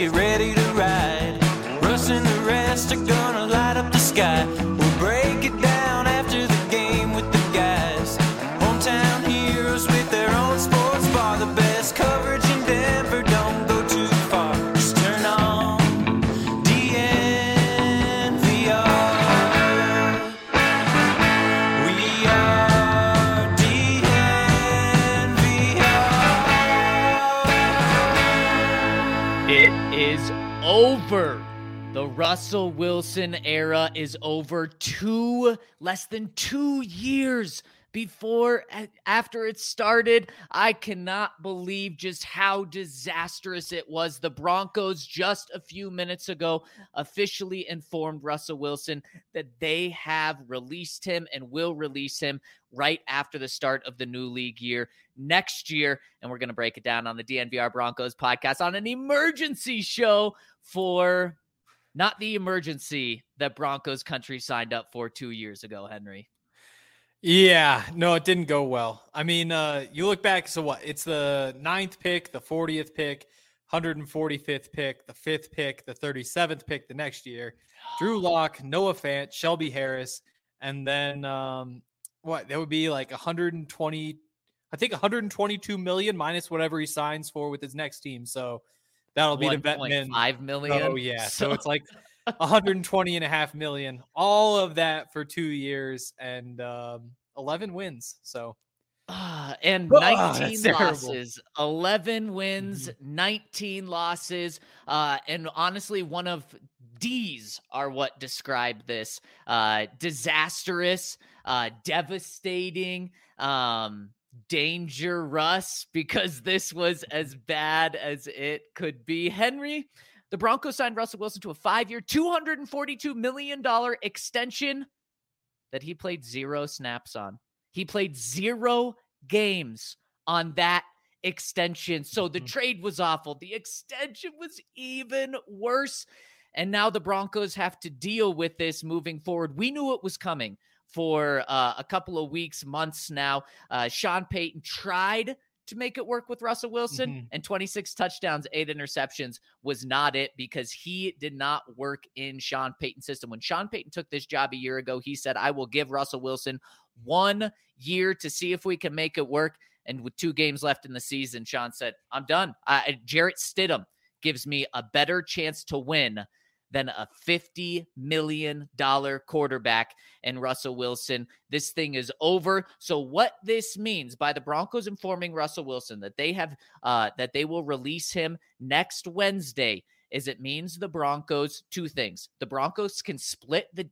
get ready to ride. Russ and the rest are gonna light up the sky. We'll break it down after the game with the guys. Hometown heroes with their own sports bar. The best coverage in Denver, don't go too far. Just turn on DNVR. We are DNVR. It is over. The Russell Wilson era is over. Less than 2 years after it started. I cannot believe just how disastrous it was. The Broncos just a few minutes ago officially informed Russell Wilson that they have released him and will release him right after the start of the new league year next year. And we're going to break it down on the DNVR Broncos podcast on an emergency show for not the emergency that Broncos country signed up for 2 years ago, Henry. Yeah, no, it didn't go well. I mean, you look back, so what? It's the 9th pick, the 40th pick, 145th pick, the 5th pick, the 37th pick the next year. Drew Lock, Noah Fant, Shelby Harris, and then that would be like 122 million minus whatever he signs for with his next team. So that'll be the Vetman. 5 million. Oh, yeah. So it's like 120.5 million. All of that for 2 years and 11 wins. So and 19 losses. 11 wins, 19 losses. And honestly, one of D's are what describe this. Disastrous, devastating, dangerous, because this was as bad as it could be. Henry, the Broncos signed Russell Wilson to a 5-year, $242 million extension that he played 0 snaps on. He played 0 games on that extension. So the trade was awful. The extension was even worse. And now the Broncos have to deal with this moving forward. We knew it was coming for a couple of weeks, months now. Sean Payton tried to make it work with Russell Wilson, and 26 touchdowns, 8 interceptions was not it, because he did not work in Sean Payton's system. When Sean Payton took this job a year ago, he said, I will give Russell Wilson 1 year to see if we can make it work. And with 2 games left in the season, Sean said, I'm done. Jarrett Stidham gives me a better chance to win than a $50 million quarterback and Russell Wilson. This thing is over. So what this means by the Broncos informing Russell Wilson that they have that they will release him next Wednesday is it means the Broncos, 2 things. The Broncos can split the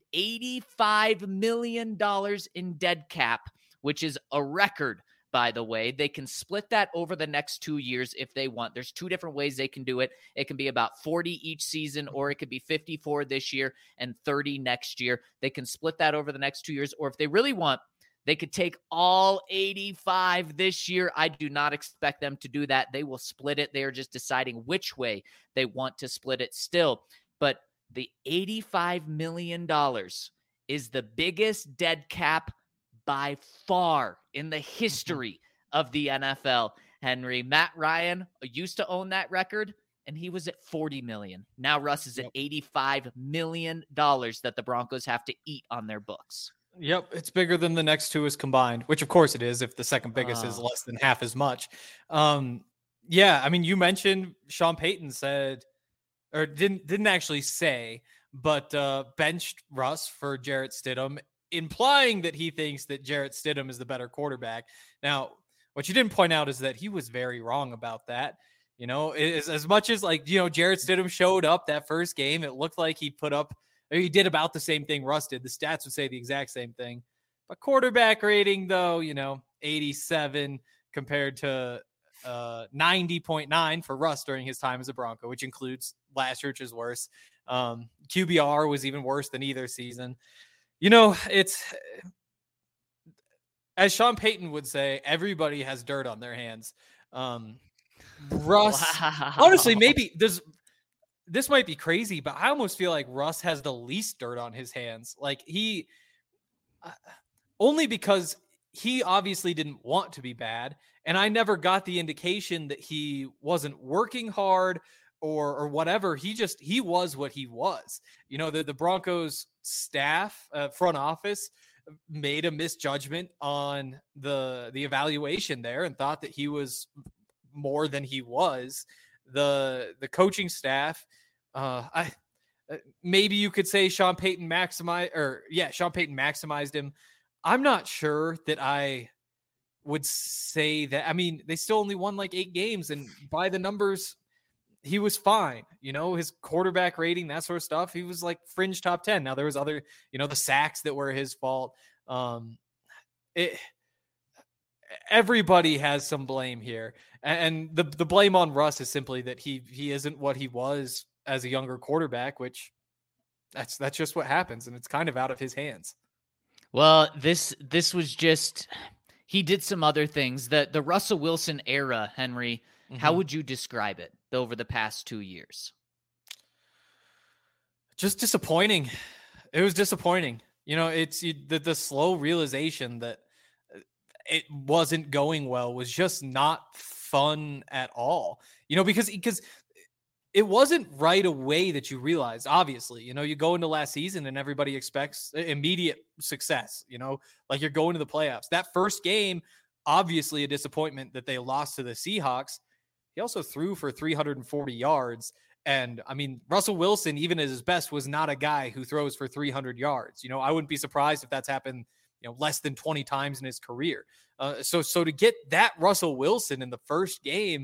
$85 million in dead cap, which is a record, by the way. They can split that over the next 2 years if they want. There's 2 different ways they can do it. It can be about 40 each season, or it could be 54 this year and 30 next year. They can split that over the next 2 years, or if they really want, they could take all 85 this year. I do not expect them to do that. They will split it. They are just deciding which way they want to split it still. But the $85 million is the biggest dead cap by far in the history of the NFL, Henry. Matt Ryan used to own that record, and he was at $40 million. Now Russ is at $85 million that the Broncos have to eat on their books. Yep, it's bigger than the next 2 is combined, which of course it is if the second biggest is less than half as much. Yeah, I mean, you mentioned Sean Payton said, or didn't actually say, but benched Russ for Jarrett Stidham, implying that he thinks that Jarrett Stidham is the better quarterback. Now, what you didn't point out is that he was very wrong about that. You know, as much as Jarrett Stidham showed up that first game, it looked like he did about the same thing Russ did. The stats would say the exact same thing. But quarterback rating, though, 87 compared to 90.9 for Russ during his time as a Bronco, which includes last year, which is worse. QBR was even worse than either season. It's, as Sean Payton would say, everybody has dirt on their hands. Russ, honestly, maybe this might be crazy, but I almost feel like Russ has the least dirt on his hands. Like only because he obviously didn't want to be bad. And I never got the indication that he wasn't working hard or whatever. He was what he was. You know, the Broncos staff, front office made a misjudgment on the evaluation there and thought that he was more than he was. The coaching staff, maybe you could say Sean Payton maximized him. I'm not sure that I would say that. I mean, they still only won like 8 games, and by the numbers, he was fine. You know, his quarterback rating, that sort of stuff, he was like fringe top 10. Now there was other, you know, the sacks that were his fault. Everybody has some blame here. And the blame on Russ is simply that he isn't what he was as a younger quarterback, which that's just what happens. And it's kind of out of his hands. Well, this was just, he did some other things. The Russell Wilson era, Henry, how would you describe it over the past 2 years? Just disappointing. It was disappointing. You know, it's the slow realization that it wasn't going well was just not fun at all. You know, because it wasn't right away that you realized, obviously, you know, you go into last season and everybody expects immediate success, you know, like you're going to the playoffs. That first game, obviously a disappointment that they lost to the Seahawks. He also threw for 340 yards. And I mean, Russell Wilson, even at his best, was not a guy who throws for 300 yards. You know, I wouldn't be surprised if that's happened, you know, less than 20 times in his career. So to get that Russell Wilson in the first game,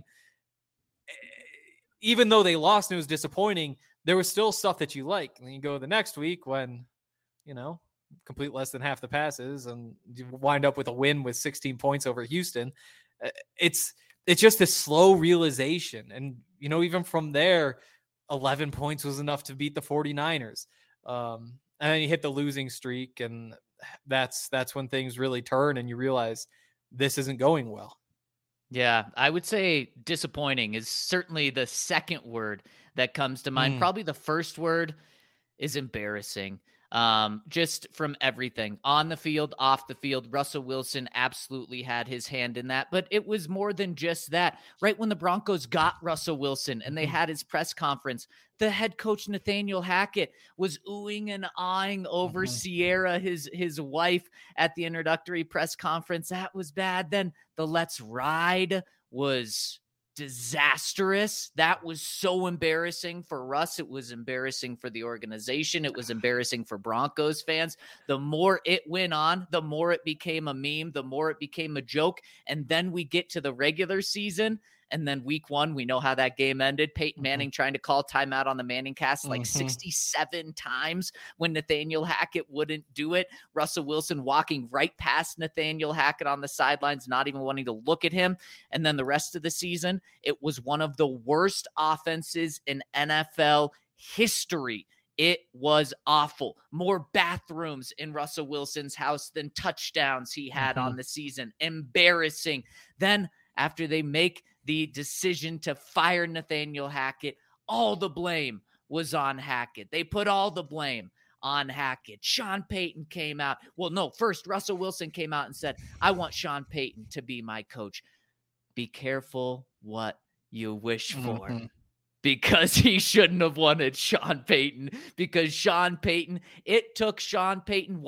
even though they lost and it was disappointing, there was still stuff that you like. And then you go the next week when, you know, complete less than half the passes and you wind up with a win with 16 points over Houston. It's just a slow realization. And, you know, even from there, 11 points was enough to beat the 49ers. And then you hit the losing streak, and that's when things really turn and you realize this isn't going well. Yeah, I would say disappointing is certainly the second word that comes to mind. Probably the first word is embarrassing. Just from everything on the field, off the field, Russell Wilson absolutely had his hand in that, but it was more than just that. Right when the Broncos got Russell Wilson and they had his press conference, the head coach Nathaniel Hackett was oohing and aahing over Sierra, his wife, at the introductory press conference. That was bad. Then the Let's Ride was disastrous. That was so embarrassing for Russ. It was embarrassing for the organization. It was embarrassing for Broncos fans. The more it went on, the more it became a meme, the more it became a joke. And then we get to the regular season. And then week 1, we know how that game ended. Peyton Manning trying to call timeout on the Manning cast like 67 times when Nathaniel Hackett wouldn't do it. Russell Wilson walking right past Nathaniel Hackett on the sidelines, not even wanting to look at him. And then the rest of the season, it was one of the worst offenses in NFL history. It was awful. More bathrooms in Russell Wilson's house than touchdowns he had on the season. Embarrassing. Then after they make the decision to fire Nathaniel Hackett, all the blame was on Hackett. They put all the blame on Hackett. Sean Payton came out. Well, no, first Russell Wilson came out and said, I want Sean Payton to be my coach. Be careful what you wish for. Because he shouldn't have wanted Sean Payton. Because Sean Payton, it took Sean Payton,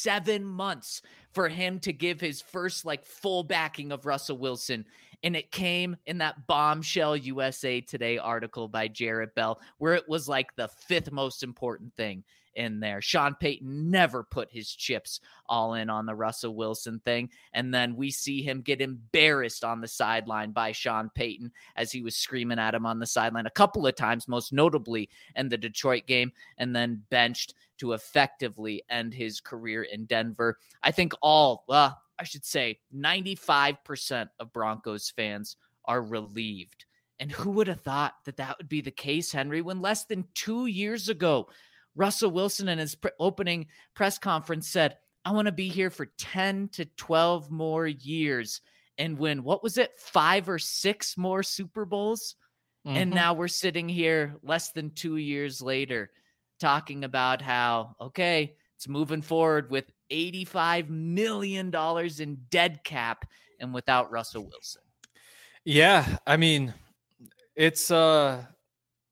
7 months for him to give his first full backing of Russell Wilson. And it came in that bombshell USA Today article by Jarrett Bell, where it was like the 5th most important thing in there. Sean Payton never put his chips all in on the Russell Wilson thing. And then we see him get embarrassed on the sideline by Sean Payton as he was screaming at him on the sideline a couple of times, most notably in the Detroit game, and then benched to effectively end his career in Denver. I think 95% of Broncos fans are relieved. And who would have thought that would be the case, Henry, when less than 2 years ago, Russell Wilson in his opening press conference said, I want to be here for 10 to 12 more years and win, 5 or 6 more Super Bowls? And now we're sitting here less than 2 years later talking about how, okay, it's moving forward with $85 million in dead cap and without Russell Wilson. Yeah, I mean, it's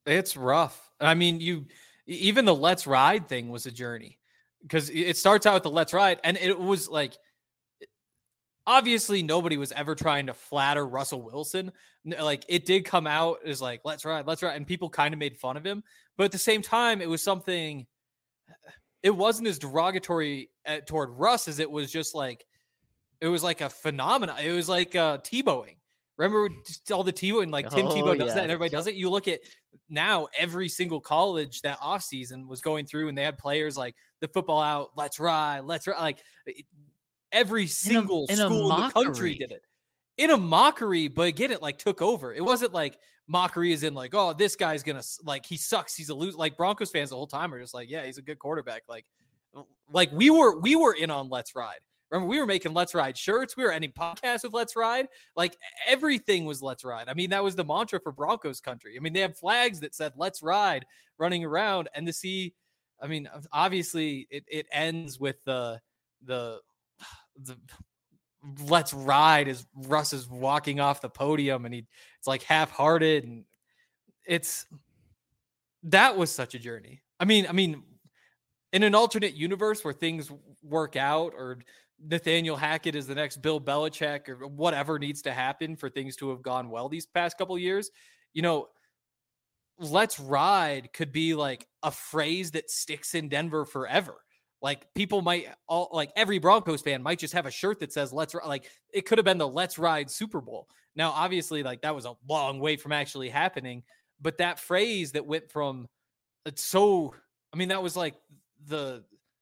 It's rough. I mean, even the let's ride thing was a journey, because it starts out with the let's ride, and it was like, obviously nobody was ever trying to flatter Russell Wilson. Like, it did come out as like, let's ride, and people kind of made fun of him. But at the same time, it was something, it wasn't as derogatory toward Russ as it was just like, it was like a phenomenon. It was like Tebowing. Remember all the Tebow, like Tim Tebow does that and everybody does it. You look at now, every single college that offseason was going through, and they had players like the football out, let's ride. Like, every single school in the country did it in a mockery. But again, it like took over. It wasn't like mockery as in like, oh, this guy's gonna, like, he sucks, he's a loser. Like, Broncos fans the whole time are just like, yeah, he's a good quarterback. Like we were in on let's ride. Remember, we were making let's ride shirts. We were ending podcasts with let's ride. Like, everything was let's ride. I mean, that was the mantra for Broncos country. I mean, they have flags that said let's ride running around, and to see, I mean, obviously it ends with the let's ride as Russ is walking off the podium, and it's like half-hearted, and that was such a journey. I mean, in an alternate universe where things work out, or Nathaniel Hackett is the next Bill Belichick, or whatever needs to happen for things to have gone well these past couple of years, let's ride could be like a phrase that sticks in Denver forever. Like, people might every Broncos fan might just have a shirt that says let's ride. Like, it could have been the let's ride Super Bowl. Now, obviously, like, that was a long way from actually happening, but that phrase that went from that was like the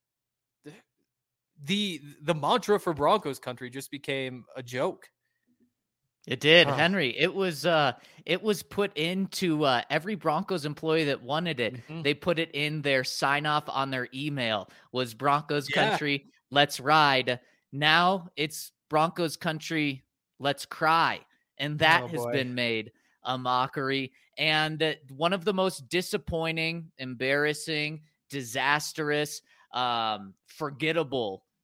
mantra for Broncos country just became a joke. It did, Henry. It was put into every Broncos employee that wanted it. Mm-hmm. They put it in their sign off on their email, was Broncos country, let's ride. Now it's Broncos country, let's cry. And that has been made a mockery. And one of the most disappointing, embarrassing, disastrous, forgettable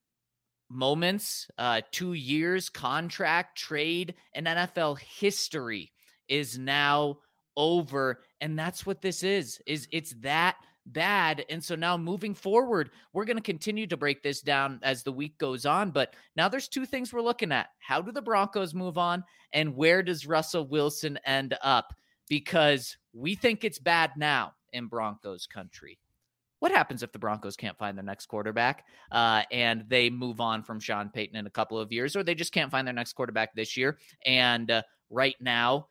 moments, 2 years, contract, trade, and NFL history is now over. And that's what this is it's that bad. And so now moving forward, we're going to continue to break this down as the week goes on. But now there's two things we're looking at. How do the Broncos move on? And where does Russell Wilson end up? Because we think it's bad now in Broncos country. What happens if the Broncos can't find their next quarterback and they move on from Sean Payton in a couple of years, or they just can't find their next quarterback this year? And right now,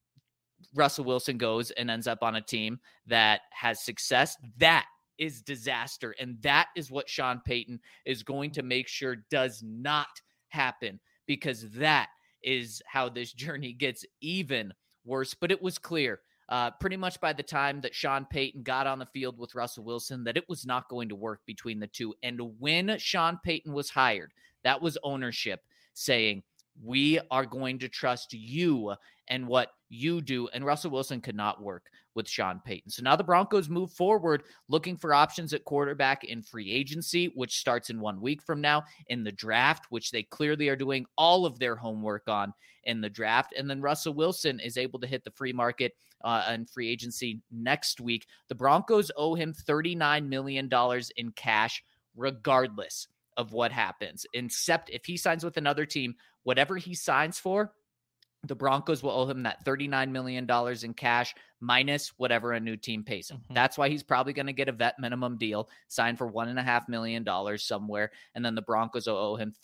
Russell Wilson goes and ends up on a team that has success. That is disaster. And that is what Sean Payton is going to make sure does not happen, because that is how this journey gets even worse. But it was clear pretty much by the time that Sean Payton got on the field with Russell Wilson that it was not going to work between the two. And when Sean Payton was hired, that was ownership saying, we are going to trust you and what you do. And Russell Wilson could not work with Sean Payton. So now the Broncos move forward looking for options at quarterback in free agency, which starts in 1 week from now, in the draft, which they clearly are doing all of their homework on in the draft. And then Russell Wilson is able to hit the free market and free agency next week. The Broncos owe him $39 million in cash, regardless of what happens, except if he signs with another team, whatever he signs for, the Broncos will owe him that $39 million in cash minus whatever a new team pays him. Mm-hmm. That's why he's probably going to get a vet minimum deal signed for $1.5 million somewhere. And then the Broncos will owe him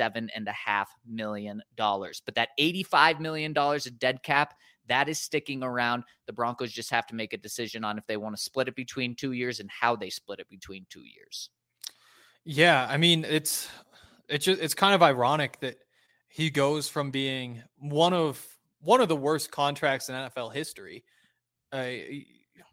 $37.5 million. But that $85 million of dead cap, that is sticking around. The Broncos just have to make a decision on if they want to split it between 2 years and how they split it between 2 years. Yeah, I mean, it's kind of ironic that he goes from being one of the worst contracts in NFL history. I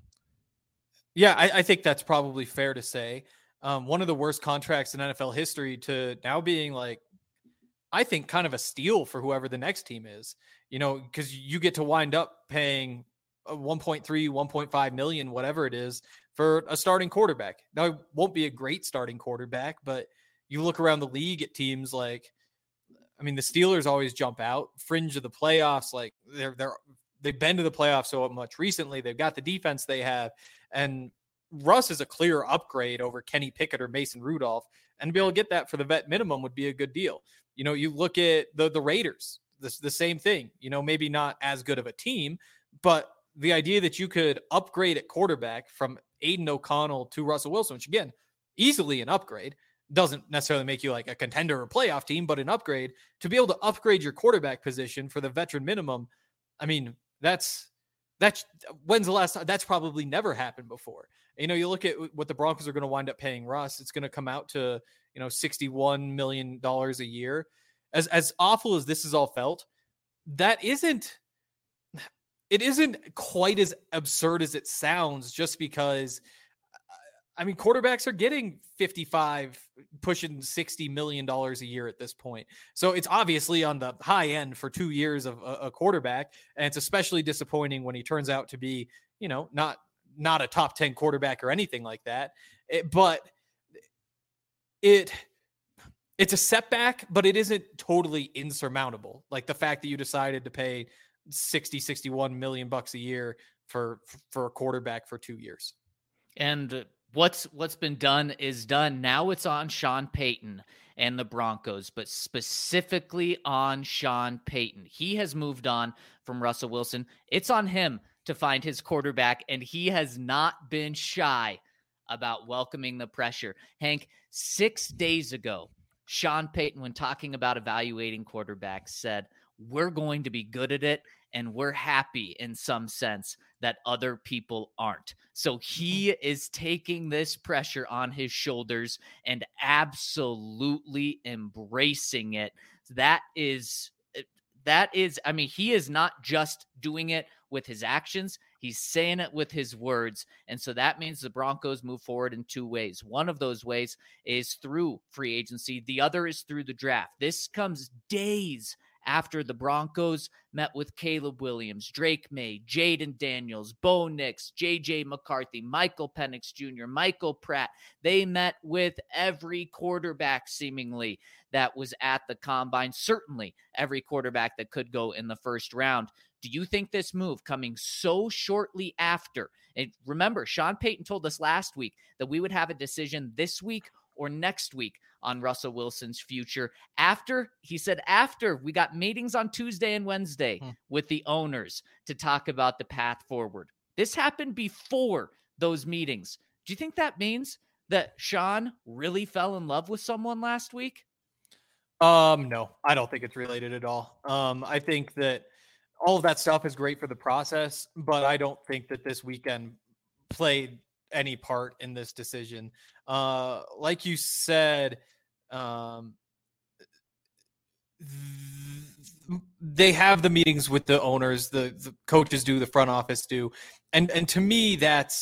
think that's probably fair to say. One of the worst contracts in NFL history to now being like, I think, kind of a steal for whoever the next team is, because you get to wind up paying 1.3, 1.5 million, whatever it is, for a starting quarterback. Now, it won't be a great starting quarterback, but you look around the league at teams like, I mean, the Steelers always jump out, fringe of the playoffs. Like they're been to the playoffs so much recently. They've got the defense they have, and Russ is a clear upgrade over Kenny Pickett or Mason Rudolph, and to be able to get that for the vet minimum would be a good deal. You look at the Raiders, the same thing, maybe not as good of a team, but the idea that you could upgrade at quarterback from Aiden O'Connell to Russell Wilson, which again, easily an upgrade, doesn't necessarily make you like a contender or playoff team, but an upgrade to be able to upgrade your quarterback position for the veteran minimum. I mean, that's when's the last time? That's probably never happened before. You look at what the Broncos are going to wind up paying Russ. It's going to come out to, $61 million a year. As awful as this is all felt, it isn't quite as absurd as it sounds, just because, quarterbacks are getting 55, pushing $60 million a year at this point. So it's obviously on the high end for 2 years of a quarterback. And it's especially disappointing when he turns out to be, not a top 10 quarterback or anything like that. It's a setback, but it isn't totally insurmountable. Like the fact that you decided to pay 61 million bucks a year for a quarterback for 2 years. And what's been done is done. Now it's on Sean Payton and the Broncos, but specifically on Sean Payton. He has moved on from Russell Wilson. It's on him to find his quarterback, and he has not been shy about welcoming the pressure. Hank, 6 days ago, Sean Payton, when talking about evaluating quarterbacks, said, "We're going to be good at it, and we're happy in some sense that other people aren't." So he is taking this pressure on his shoulders and absolutely embracing it. That is, he is not just doing it with his actions. He's saying it with his words. And so that means the Broncos move forward in 2 ways. One of those ways is through free agency. The other is through the draft. This comes days after the Broncos met with Caleb Williams, Drake May, Jaden Daniels, Bo Nix, J.J. McCarthy, Michael Penix Jr., Michael Pratt. They met with every quarterback seemingly that was at the combine, certainly every quarterback that could go in the first round. Do you think this move coming so shortly after, and remember, Sean Payton told us last week that we would have a decision this week or next week on Russell Wilson's future. After we got meetings on Tuesday and Wednesday with the owners to talk about the path forward. This happened before those meetings. Do you think that means that Sean really fell in love with someone last week? No, I don't think it's related at all. I think that all of that stuff is great for the process, but I don't think that this weekend played any part in this decision. Like you said, they have the meetings with the owners, the coaches do, the front office do. And to me,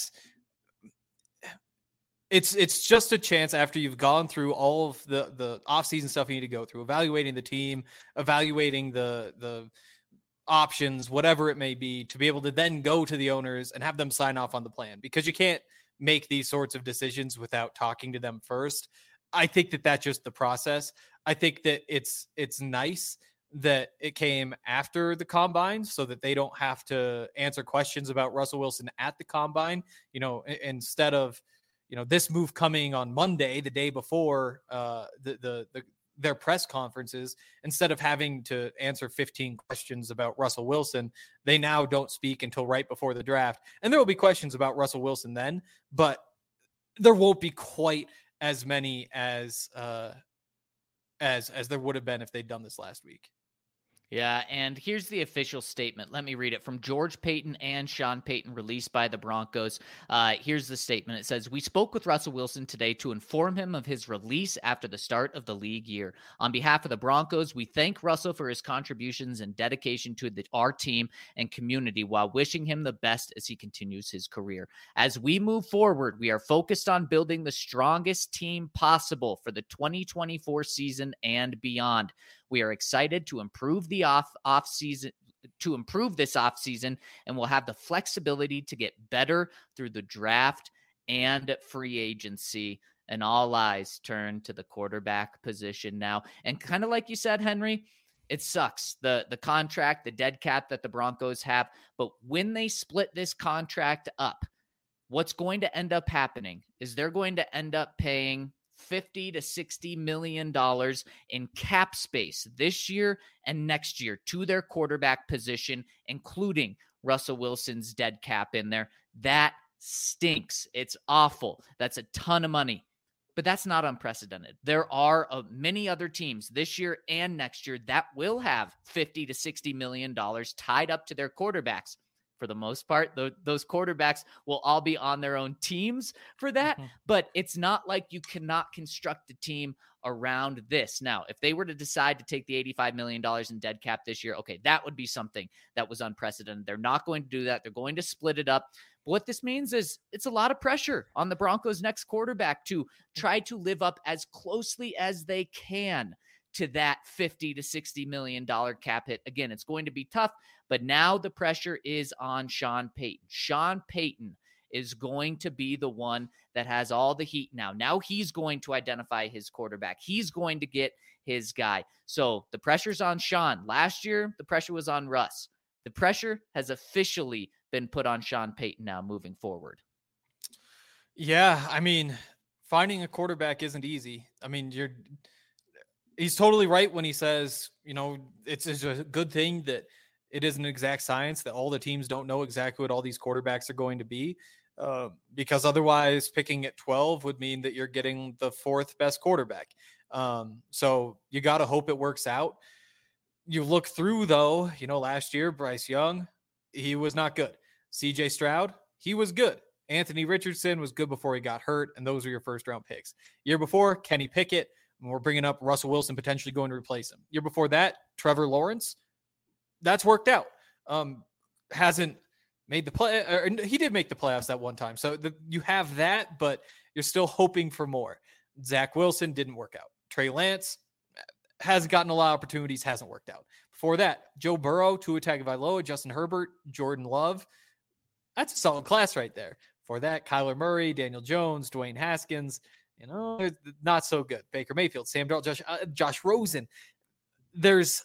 it's just a chance after you've gone through all of the offseason stuff you need to go through, evaluating the team, evaluating the options, whatever it may be, to be able to then go to the owners and have them sign off on the plan, because you can't make these sorts of decisions without talking to them first. I think that that's just the process. I think that it's nice that it came after the combine so that they don't have to answer questions about Russell Wilson at the combine, instead of, this move coming on Monday, the day before their press conferences. Instead of having to answer 15 questions about Russell Wilson, they now don't speak until right before the draft. And there will be questions about Russell Wilson then, but there won't be quite as many as there would have been if they'd done this last week. Yeah, and here's the official statement. Let me read it from George Paton and Sean Payton, released by the Broncos. Here's the statement. It says, "We spoke with Russell Wilson today to inform him of his release after the start of the league year. On behalf of the Broncos, we thank Russell for his contributions and dedication to our team and community while wishing him the best as he continues his career. As we move forward, we are focused on building the strongest team possible for the 2024 season and beyond. We are excited to improve the off-season, this offseason, and we'll have the flexibility to get better through the draft and free agency." And all eyes turn to the quarterback position now. And kind of like you said, Henry, It sucks. The contract, the dead cap that the Broncos have. But when they split this contract up, what's going to end up happening is they're going to end up paying $50 to $60 million in cap space this year and next year to their quarterback position, including Russell Wilson's dead cap in there. That stinks. It's awful. That's a ton of money. But that's not unprecedented. There are many other teams this year and next year that will have $50 to $60 million tied up to their quarterbacks. For the most part, those quarterbacks will all be on their own teams for that. But it's not like you cannot construct a team around this. Now, if they were to decide to take the $85 million in dead cap this year, okay, that would be something that was unprecedented. They're not going to do that. They're going to split it up. But what this means is it's a lot of pressure on the Broncos' next quarterback to try to live up as closely as they can to that $50 to $60 million cap hit. Again, it's going to be tough, but now the pressure is on Sean Payton. Sean Payton is going to be the one that has all the heat now. Now he's going to identify his quarterback. He's going to get his guy. So the pressure's on Sean. Last year, the pressure was on Russ. The pressure has officially been put on Sean Payton now moving forward. Yeah, I mean, finding a quarterback isn't easy. I mean, he's totally right when he says, it's a good thing that it is an exact science, that all the teams don't know exactly what all these quarterbacks are going to be, because otherwise picking at 12 would mean that you're getting the fourth best quarterback. So you got to hope it works out. You look through, though, last year, Bryce Young, he was not good. CJ Stroud, he was good. Anthony Richardson was good before he got hurt, and those were your first-round picks. Year before, Kenny Pickett, and we're bringing up Russell Wilson potentially going to replace him. Year before that, Trevor Lawrence, that's worked out. Hasn't made the play, or he did make the playoffs that one time. So you have that, but you're still hoping for more. Zach Wilson didn't work out. Trey Lance has gotten a lot of opportunities, hasn't worked out. Before that, Joe Burrow, Tua Tagovailoa, Justin Herbert, Jordan Love. That's a solid class right there. For that, Kyler Murray, Daniel Jones, Dwayne Haskins, not so good. Baker Mayfield, Sam Darnold, Josh Rosen. There's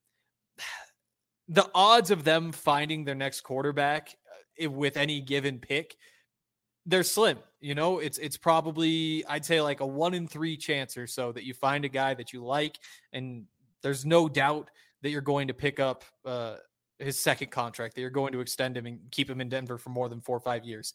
the odds of them finding their next quarterback with any given pick, they're slim. It's probably, I'd say, like a 1 in 3 chance or so that you find a guy that you like, and there's no doubt that you're going to pick up his second contract, that you're going to extend him and keep him in Denver for more than 4 or 5 years.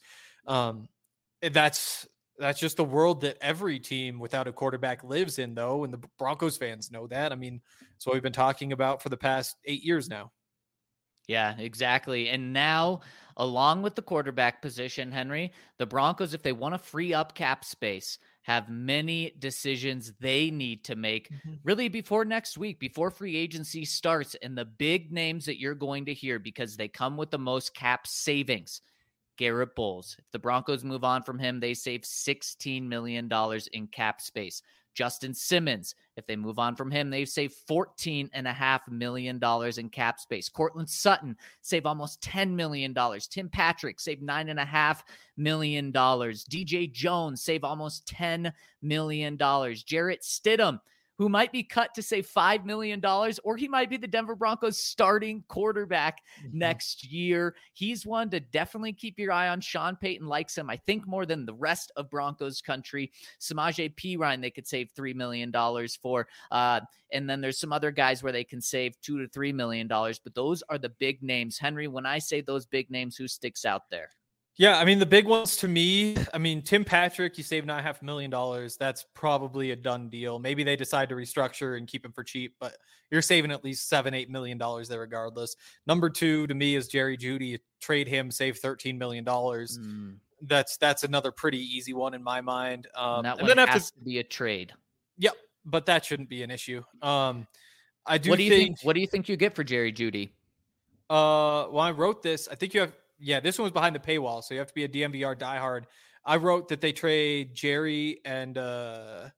That's just the world that every team without a quarterback lives in, though, and the Broncos fans know that. I mean, it's what we've been talking about for the past 8 years now. Yeah, exactly. And now, along with the quarterback position, Henry, the Broncos, if they want to free up cap space, have many decisions they need to make really before next week, before free agency starts. And the big names that you're going to hear, because they come with the most cap savings. Garrett Bowles. If the Broncos move on from him, they save $16 million in cap space. Justin Simmons, if they move on from him, they save $14.5 million in cap space. Cortland Sutton save almost $10 million. Tim Patrick save $9.5 million. DJ Jones save almost $10 million. Jarrett Stidham, who might be cut to say $5 million, or he might be the Denver Broncos starting quarterback next year. He's one to definitely keep your eye on. Sean Payton likes him, I think, more than the rest of Broncos country. Samaje Perine, they could save $3 million for. And then there's some other guys where they can save $2 to $3 million. But those are the big names. Henry, when I say those big names, who sticks out there? Yeah, I mean, the big ones to me, Tim Patrick, you save $9.5 million. That's probably a done deal. Maybe they decide to restructure and keep him for cheap, but you're saving at least $7-8 million there regardless. Number 2 to me is Jerry Jeudy. You trade him, save $13 million. That's another pretty easy one in my mind. And that one has to be a trade. Yep, but that shouldn't be an issue. I do What do you think. What do you think you get for Jerry Jeudy? When I wrote this, I think you have. Yeah, this one was behind the paywall, so you have to be a DMVR diehard. I wrote that they trade Jerry and their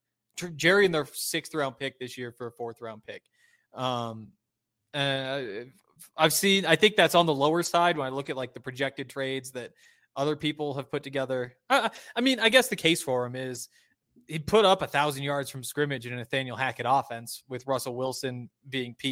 6th round pick this year for a 4th round pick. I think that's on the lower side when I look at like the projected trades that other people have put together. I guess the case for him is he put up 1,000 yards from scrimmage in a Nathaniel Hackett offense with Russell Wilson being peak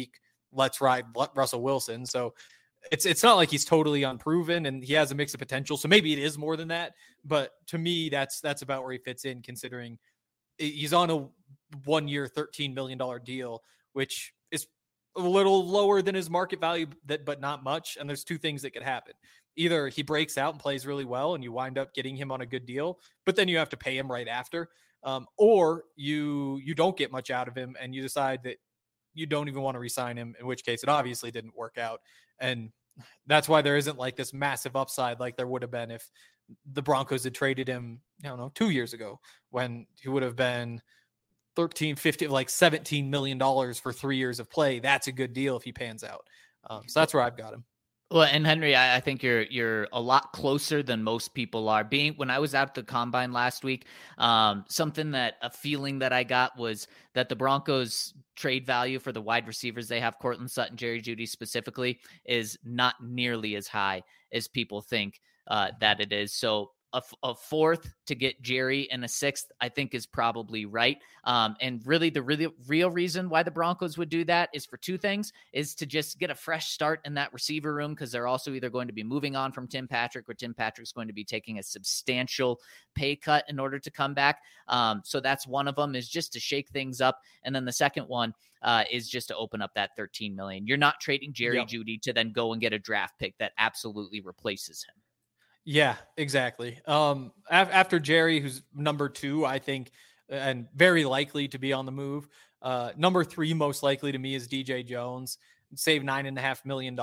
let's ride Russell Wilson. So it's not like he's totally unproven, and he has a mix of potential. So maybe it is more than that. But to me, that's about where he fits in, considering he's on a 1 year, $13 million deal, which is a little lower than his market value, but not much. And there's two things that could happen. Either he breaks out and plays really well and you wind up getting him on a good deal, but then you have to pay him right after. Or you don't get much out of him and you decide that you don't even want to re-sign him, in which case it obviously didn't work out. And that's why there isn't like this massive upside like there would have been if the Broncos had traded him, 2 years ago, when he would have been 13, 15, like $17 million for 3 years of play. That's a good deal if he pans out. So that's where I've got him. Well, and Henry, I think you're a lot closer than most people are. When I was out at the combine last week, a feeling that I got was that the Broncos trade value for the wide receivers they have, Courtland Sutton, Jerry Jeudy specifically, is not nearly as high as people think that it is. So a fourth to get Jerry and a sixth, I think, is probably right. And really the real reason why the Broncos would do that is for two things: is to just get a fresh start in that receiver room, because they're also either going to be moving on from Tim Patrick, or Tim Patrick's going to be taking a substantial pay cut in order to come back. So that's one of them, is just to shake things up. And then the second one is just to open up that $13 million. You're not trading Jerry Jeudy to then go and get a draft pick that absolutely replaces him. Yeah, exactly. After Jerry, who's number 2, I think, and very likely to be on the move. Number 3, most likely to me, is DJ Jones. Save $9.5 million.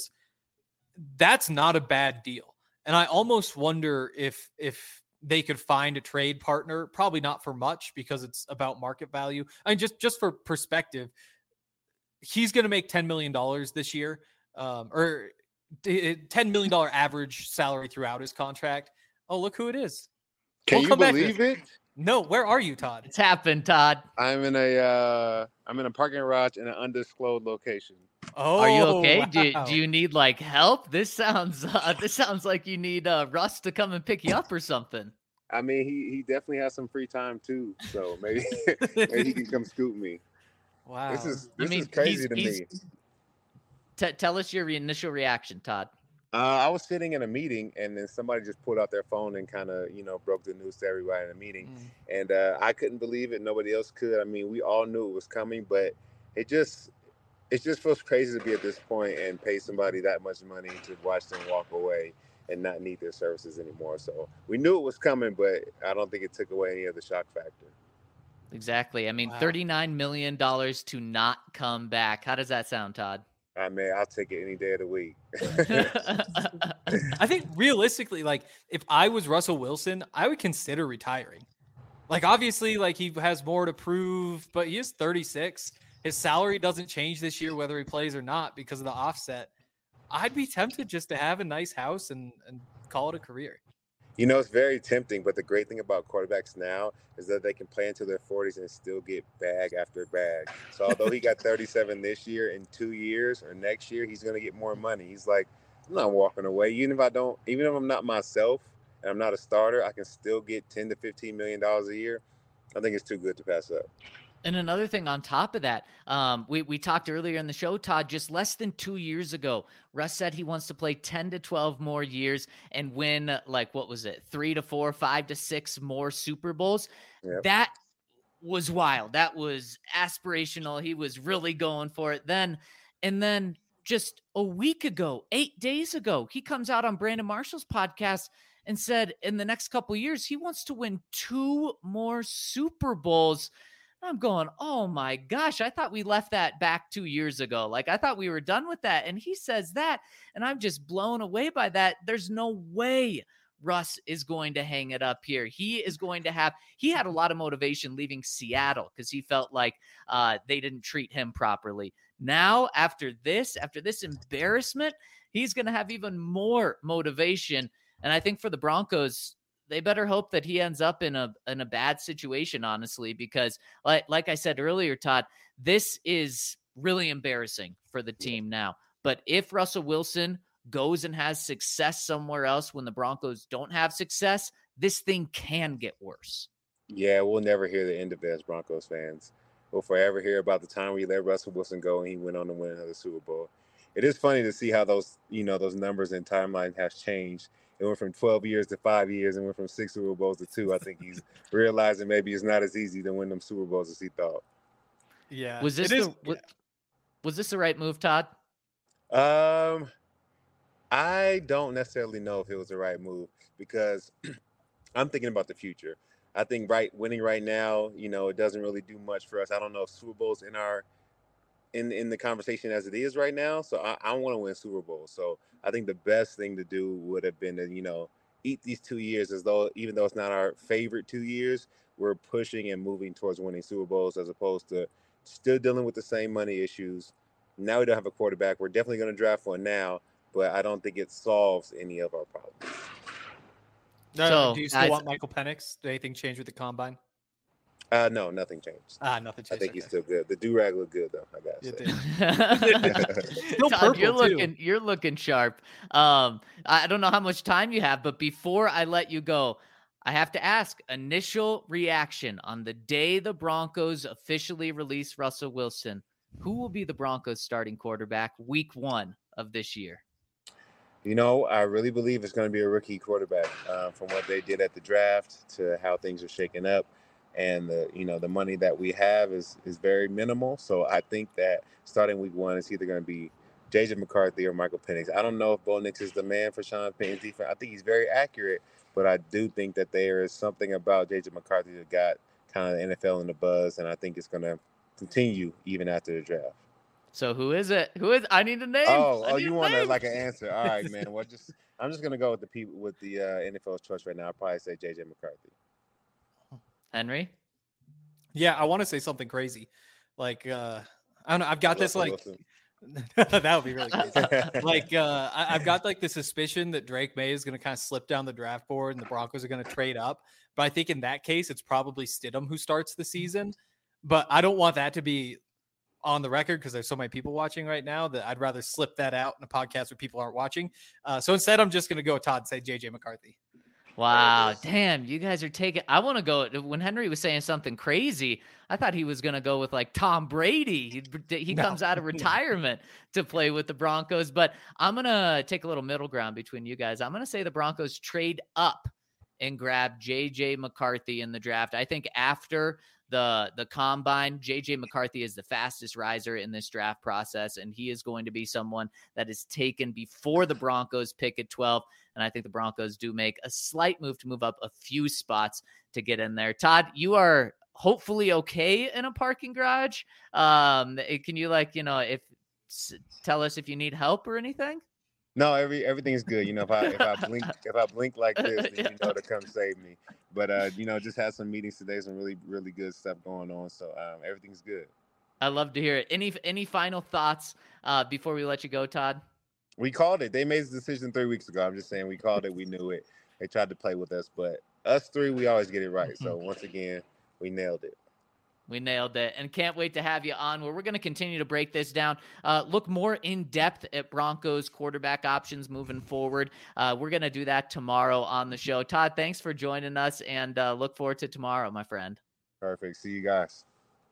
That's not a bad deal. And I almost wonder if they could find a trade partner. Probably not for much, because it's about market value. I mean, just for perspective, he's going to make $10 million this year, or $10 million average salary throughout his contract. Oh, look who it is. Can you believe it? No, where are you, Todd? It's happened, Todd. I'm in a parking garage in an undisclosed location. Oh, are you okay? Wow. Do you need like help? This sounds like you need Russ to come and pick you up or something. I mean, he definitely has some free time too, so maybe he can come scoop me. Wow, this is crazy to me. Tell us your initial reaction, Todd. I was sitting in a meeting, and then somebody just pulled out their phone and kind of, broke the news to everybody in the meeting. And I couldn't believe it. Nobody else could. I mean, we all knew it was coming, but it just feels crazy to be at this point and pay somebody that much money to watch them walk away and not need their services anymore. So we knew it was coming, but I don't think it took away any of the shock factor. Exactly. I mean, wow. $39 million to not come back. How does that sound, Todd? I mean, I'll take it any day of the week. I think realistically, like, if I was Russell Wilson, I would consider retiring. Like, obviously, like, he has more to prove, but he is 36. His salary doesn't change this year, whether he plays or not, because of the offset. I'd be tempted just to have a nice house and call it a career. It's very tempting, but the great thing about quarterbacks now is that they can play into their 40s and still get bag after bag. So although he got 37 this year, in 2 years or next year, he's going to get more money. He's like, I'm not walking away. Even if I'm not myself and I'm not a starter, I can still get $10 to $15 million a year. I think it's too good to pass up. And another thing on top of that, we talked earlier in the show, Todd, just less than 2 years ago, Russ said he wants to play 10 to 12 more years and win, 3 to 4, 5 to 6 more Super Bowls. Yep. That was wild. That was aspirational. He was really going for it then. And then just a week ago, 8 days ago, he comes out on Brandon Marshall's podcast and said in the next couple of years, he wants to win 2 more Super Bowls. I'm going, oh my gosh, I thought we left that back 2 years ago. Like, I thought we were done with that. And he says that, and I'm just blown away by that. There's no way Russ is going to hang it up here. He had a lot of motivation leaving Seattle because he felt like they didn't treat him properly. Now, after this embarrassment, he's going to have even more motivation. And I think for the Broncos, they better hope that he ends up in a bad situation, honestly, because like I said earlier, Todd, this is really embarrassing for the team now. But if Russell Wilson goes and has success somewhere else when the Broncos don't have success, this thing can get worse. Yeah, we'll never hear the end of it as Broncos fans. we'll forever hear about the time we let Russell Wilson go and he went on to win another Super Bowl. It is funny to see how those numbers and timeline has changed. It went from 12 years to 5 years and went from 6 Super Bowls to 2. I think he's realizing maybe it's not as easy to win them Super Bowls as he thought. Yeah. Was this the right move, Todd? I don't necessarily know if it was the right move because I'm thinking about the future. I think winning right now, it doesn't really do much for us. I don't know if Super Bowl's in the conversation as it is right now. So I want to win Super Bowl. So I think the best thing to do would have been to, eat these 2 years as though, even though it's not our favorite 2 years, we're pushing and moving towards winning Super Bowls as opposed to still dealing with the same money issues. Now we don't have a quarterback. We're definitely going to draft one now, but I don't think it solves any of our problems. So, do you still want Michael Penix? Did anything change with the combine? No, nothing changed. Nothing changed. I think he's still good. The do-rag looked good though, I gotta say. Still Todd, you're looking sharp. I don't know how much time you have, but before I let you go, I have to ask initial reaction on the day the Broncos officially release Russell Wilson. Who will be the Broncos starting quarterback week 1 of this year? I really believe it's going to be a rookie quarterback from what they did at the draft to how things are shaking up. And the money that we have is very minimal. So I think that starting week 1, it's either going to be J.J. McCarthy or Michael Penix. I don't know if Bo Nix is the man for Sean Payton's defense. I think he's very accurate, but I do think that there is something about J.J. McCarthy that got kind of the NFL in the buzz, and I think it's going to continue even after the draft. So who is it? I need a name. Oh, you want an answer? All right, man. Well, I'm just going to go with the NFL's choice right now. I'll probably say J.J. McCarthy. Henry? Yeah, I want to say something crazy. Like, I don't know. I've got this, like, that would be really crazy. Like, I've got, like, the suspicion that Drake May is going to kind of slip down the draft board and the Broncos are going to trade up. But I think in that case, it's probably Stidham who starts the season. But I don't want that to be on the record because there's so many people watching right now that I'd rather slip that out in a podcast where people aren't watching. So instead, I'm just going to go with Todd and say J.J. McCarthy. Wow, damn, you guys are taking – I want to go – when Henry was saying something crazy, I thought he was going to go with, like, Tom Brady. He comes out of retirement to play with the Broncos. But I'm going to take a little middle ground between you guys. I'm going to say the Broncos trade up and grab J.J. McCarthy in the draft. I think after the combine, J.J. McCarthy is the fastest riser in this draft process, and he is going to be someone that is taken before the Broncos pick at 12. And I think the Broncos do make a slight move to move up a few spots to get in there. Todd, you are hopefully okay in a parking garage. Can you tell us if you need help or anything? No, everything is good. If I blink like this, then to come save me. But just had some meetings today, some really, really good stuff going on. So everything's good. I love to hear it. Any final thoughts before we let you go, Todd? We called it. They made the decision 3 weeks ago. I'm just saying we called it. We knew it. They tried to play with us, but us three, we always get it right. So once again, we nailed it. We nailed it, and can't wait to have you on where we're going to continue to break this down, look more in depth at Broncos quarterback options moving forward. We're going to do that tomorrow on the show. Todd, thanks for joining us, and look forward to tomorrow, my friend. Perfect. See you guys.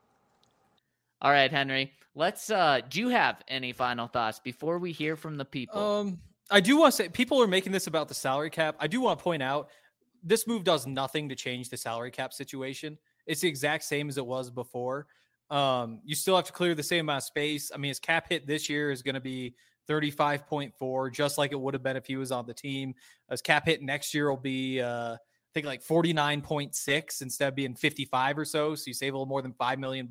All right, Henry, do you have any final thoughts before we hear from the people? I do want to say people are making this about the salary cap. I do want to point out this move does nothing to change the salary cap situation. It's the exact same as it was before. You still have to clear the same amount of space. I mean, his cap hit this year is going to be 35.4, just like it would have been if he was on the team. His cap hit next year will be, I think, like 49.6 instead of being 55 or so. So you save a little more than $5 million.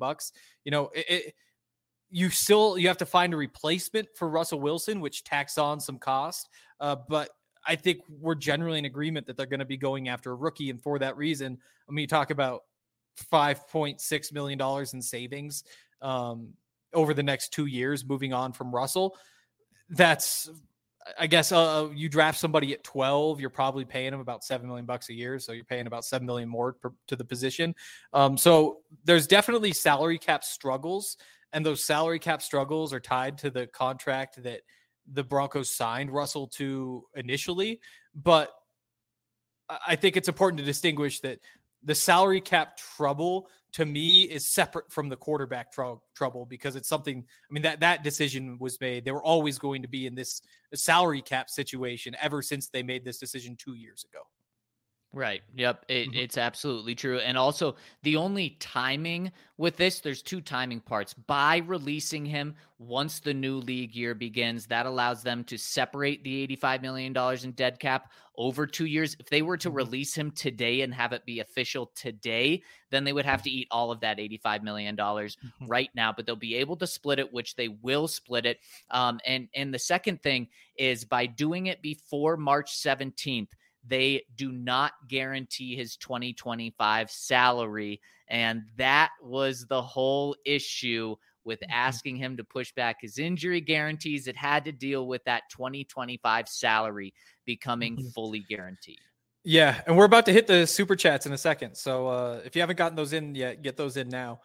You have to find a replacement for Russell Wilson, which tacks on some cost. But I think we're generally in agreement that they're going to be going after a rookie. And for that reason, I mean, you talk about $5.6 million in savings over the next 2 years, moving on from Russell. That's, I guess, you draft somebody at 12, you're probably paying him about $7 million a year. So you're paying about $7 million more to the position. So there's definitely salary cap struggles, and those salary cap struggles are tied to the contract that the Broncos signed Russell to initially. But I think it's important to distinguish that the salary cap trouble to me is separate from the quarterback trouble, because it's something, I mean, that decision was made. They were always going to be in this salary cap situation ever since they made this decision 2 years ago. Right. Yep. It's absolutely true. And also, the only timing with this, there's two timing parts. By releasing him once the new league year begins, that allows them to separate the $85 million in dead cap over 2 years. If they were to release him today and have it be official today, then they would have to eat all of that $85 million right now, but they'll be able to split it, which they will split it. And the second thing is, by doing it before March 17th, they do not guarantee his 2025 salary. And that was the whole issue with asking him to push back his injury guarantees. It had to deal with that 2025 salary becoming fully guaranteed. Yeah, and we're about to hit the super chats in a second. So if you haven't gotten those in yet, get those in now.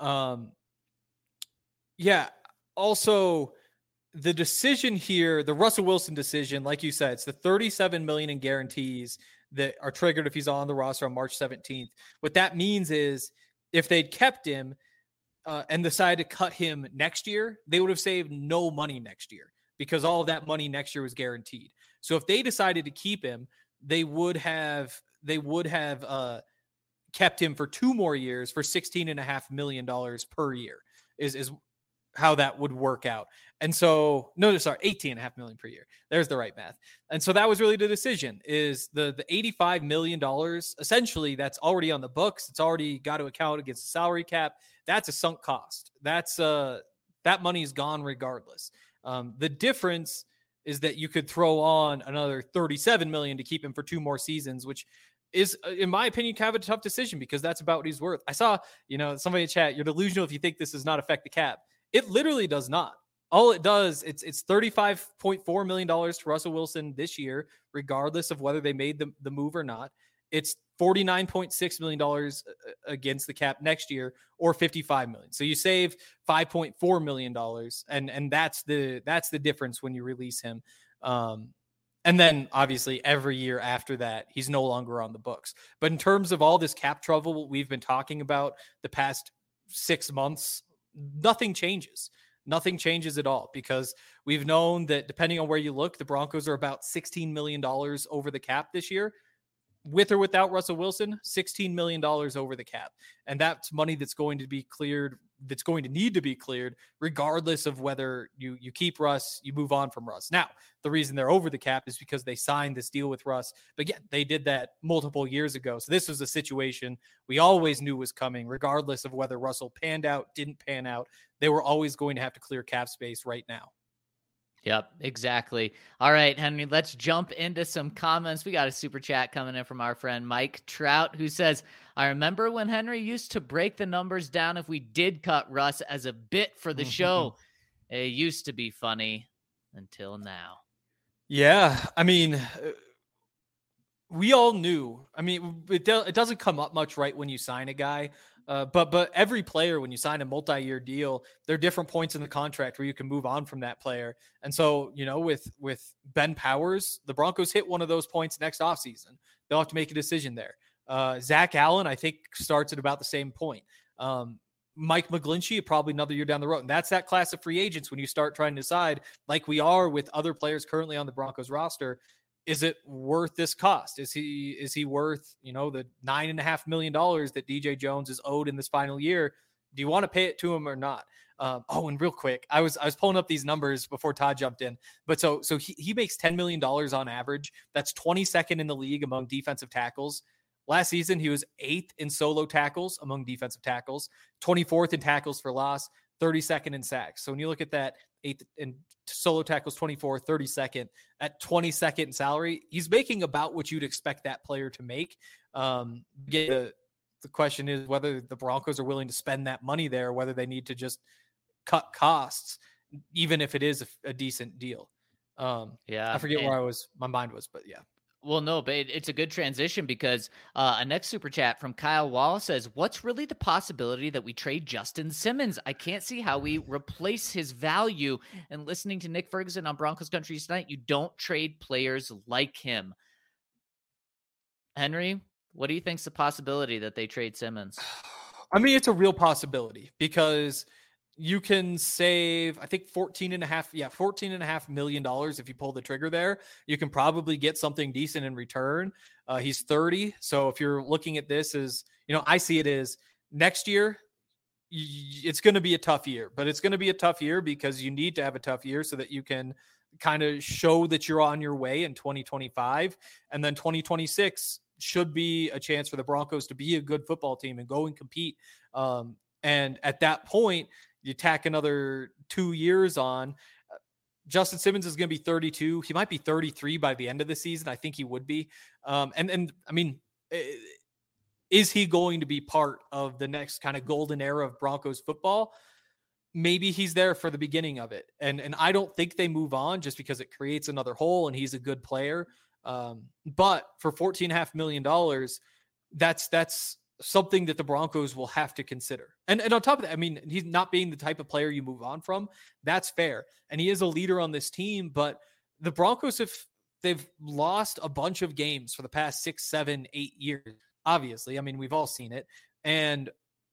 Yeah, also the decision here, the Russell Wilson decision, like you said, it's the $37 million in guarantees that are triggered if he's on the roster on March 17th. What that means is, if they'd kept him and decided to cut him next year, they would have saved no money next year, because all of that money next year was guaranteed. So if they decided to keep him, they would have kept him for 2 more years for $16.5 million per year is how that would work out. And so, $18.5 million per year. There's the right math. And so that was really the decision, is the $85 million, essentially, that's already on the books. It's already got to account against the salary cap. That's a sunk cost. That's that money is gone regardless. The difference is that you could throw on another $37 million to keep him for 2 more seasons, which is, in my opinion, kind of a tough decision, because that's about what he's worth. I saw, somebody in chat, you're delusional if you think this does not affect the cap. It literally does not. All it does, it's $35.4 million to Russell Wilson this year, regardless of whether they made the move or not. It's $49.6 million against the cap next year, or $55 million. So you save $5.4 million, and that's the difference when you release him. And then obviously every year after that, he's no longer on the books. But in terms of all this cap trouble we've been talking about the past 6 months, nothing changes. Nothing changes at all, because we've known that, depending on where you look, the Broncos are about $16 million over the cap this year. With or without Russell Wilson, $16 million over the cap. And that's money that's going to be cleared, that's going to need to be cleared, regardless of whether you keep Russ, you move on from Russ. Now, the reason they're over the cap is because they signed this deal with Russ. But yeah, they did that multiple years ago. So this was a situation we always knew was coming, regardless of whether Russell panned out, didn't pan out. They were always going to have to clear cap space right now. Yep, exactly. All right, Henry, let's jump into some comments. We got a super chat coming in from our friend Mike Trout, who says, I remember when Henry used to break the numbers down if we did cut Russ as a bit for the show. It used to be funny until now. Yeah, I mean, we all knew. I mean, it doesn't come up much right when you sign a guy. But every player, when you sign a multi-year deal, there are different points in the contract where you can move on from that player. And so, with Ben Powers, the Broncos hit one of those points next offseason. They'll have to make a decision there. Zach Allen, I think, starts at about the same point. Mike McGlinchey, probably another year down the road. And that's that class of free agents when you start trying to decide, like we are with other players currently on the Broncos roster, is it worth this cost? Is he worth, the $9.5 million that DJ Jones is owed in this final year? Do you want to pay it to him or not? And real quick, I was pulling up these numbers before Todd jumped in, but so he makes $10 million on average. That's 22nd in the league among defensive tackles. Last season, he was 8th in solo tackles among defensive tackles, 24th in tackles for loss, 32nd in sacks. So when you look at that, 8th in solo tackles, 24, 32nd, at 22nd in salary, he's making about what you'd expect that player to make. The question is whether the Broncos are willing to spend that money there, whether they need to just cut costs, even if it is a decent deal. I forget where my mind was, but yeah. Well, no, but it's a good transition, because a next super chat from Kyle Wall says, what's really the possibility that we trade Justin Simmons? I can't see how we replace his value. And listening to Nick Ferguson on Broncos Country tonight, you don't trade players like him. Henry, What do you think's the possibility that they trade Simmons? I mean, it's a real possibility because you can save, I think $14.5 million if you pull the trigger there. You can probably get something decent in return. He's 30. So if you're looking at this as, I see it as next year, it's going to be a tough year, but it's going to be a tough year because you need to have a tough year so that you can kind of show that you're on your way in 2025. And then 2026 should be a chance for the Broncos to be a good football team and go and compete. And at that point, you tack another 2 years on. Justin Simmons is going to be 32. He might be 33 by the end of the season. I think he would be. And I mean, is he going to be part of the next kind of golden era of Broncos football? Maybe he's there for the beginning of it. And I don't think they move on just because it creates another hole and he's a good player. But for $14.5 million, that's something that the Broncos will have to consider. And on top of that, I mean, he's not being the type of player you move on from. That's fair. And he is a leader on this team, but the Broncos, they've lost a bunch of games for the past 6, 7, 8 years. Obviously, I mean, we've all seen it. And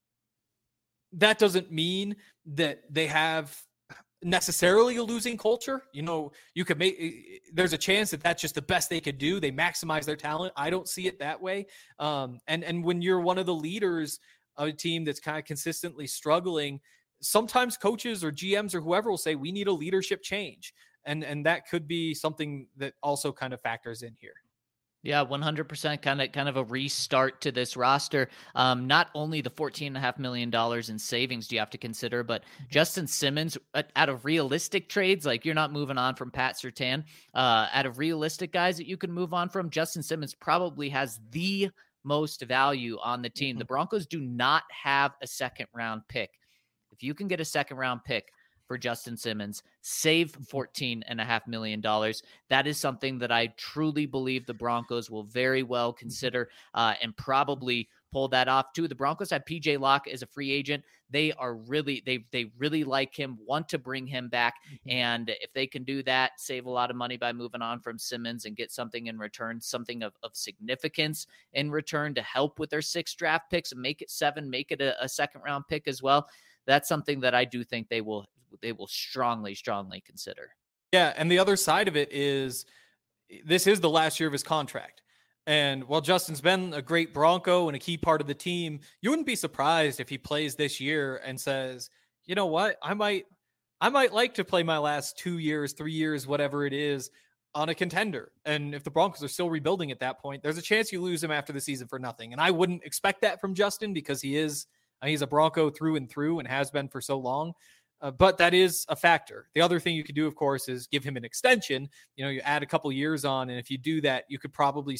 that doesn't mean that they have necessarily a losing culture. You could there's a chance that that's just the best they could do. They maximize their talent. I don't see it that way. And when you're one of the leaders of a team that's kind of consistently struggling, sometimes coaches or GMs or whoever will say, we need a leadership change. And that could be something that also kind of factors in here. Yeah, 100% kind of a restart to this roster. Not only the $14.5 million in savings do you have to consider, but Justin Simmons, out of realistic trades, like you're not moving on from Pat Surtain, out of realistic guys that you can move on from, Justin Simmons probably has the most value on the team. The Broncos do not have a second round pick. If you can get a second round pick for Justin Simmons, save $14.5 million. That is something that I truly believe the Broncos will very well consider and probably pull that off too. The Broncos have PJ Locke as a free agent. They really like him, want to bring him back. And if they can do that, save a lot of money by moving on from Simmons and get something in return, something of significance in return to help with their 6 draft picks and make it 7, make it a second round pick as well. That's something that I do think they will strongly consider. Yeah, and the other side of it is this is the last year of his contract. And while Justin's been a great Bronco and a key part of the team, you wouldn't be surprised if he plays this year and says, you know what, I might like to play my last 2 years, 3 years, whatever it is, on a contender. And if the Broncos are still rebuilding at that point, there's a chance you lose him after the season for nothing. And I wouldn't expect that from Justin because he's a Bronco through and through and has been for so long. But that is a factor. The other thing you could do, of course, is give him an extension. You add a couple years on, and if you do that, you could probably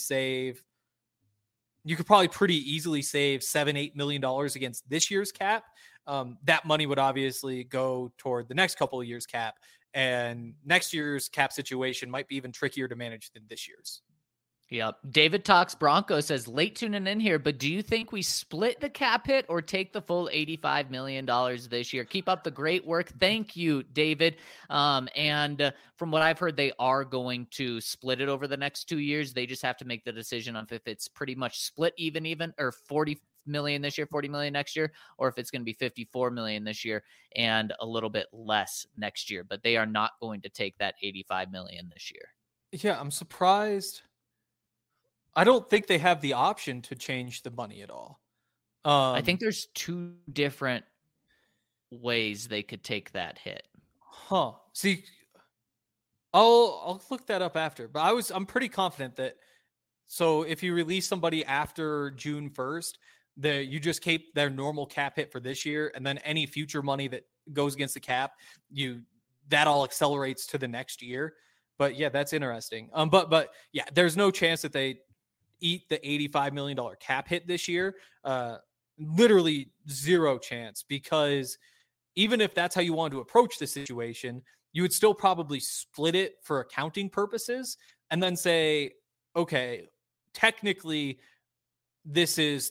pretty easily save $7-8 million against this year's cap. That money would obviously go toward the next couple of years' cap, and next year's cap situation might be even trickier to manage than this year's. Yep. David Talks Bronco says, late tuning in here, but do you think we split the cap hit or take the full $85 million this year? Keep up the great work. Thank you, David. And from what I've heard, they are going to split it over the next 2 years. They just have to make the decision on if it's pretty much split even, or 40 million this year, 40 million next year, or if it's going to be 54 million this year and a little bit less next year. But they are not going to take that 85 million this year. Yeah, I'm surprised. I don't think they have the option to change the money at all. I think there's 2 different ways they could take that hit. Huh. See, I'll look that up after, but I'm pretty confident that. So if you release somebody after June 1st, you just keep their normal cap hit for this year, and then any future money that goes against the cap, that all accelerates to the next year. But yeah, that's interesting. But yeah, there's no chance that they eat the $85 million cap hit this year. Literally zero chance, because even if that's how you want to approach the situation, you would still probably split it for accounting purposes and then say, okay, technically this is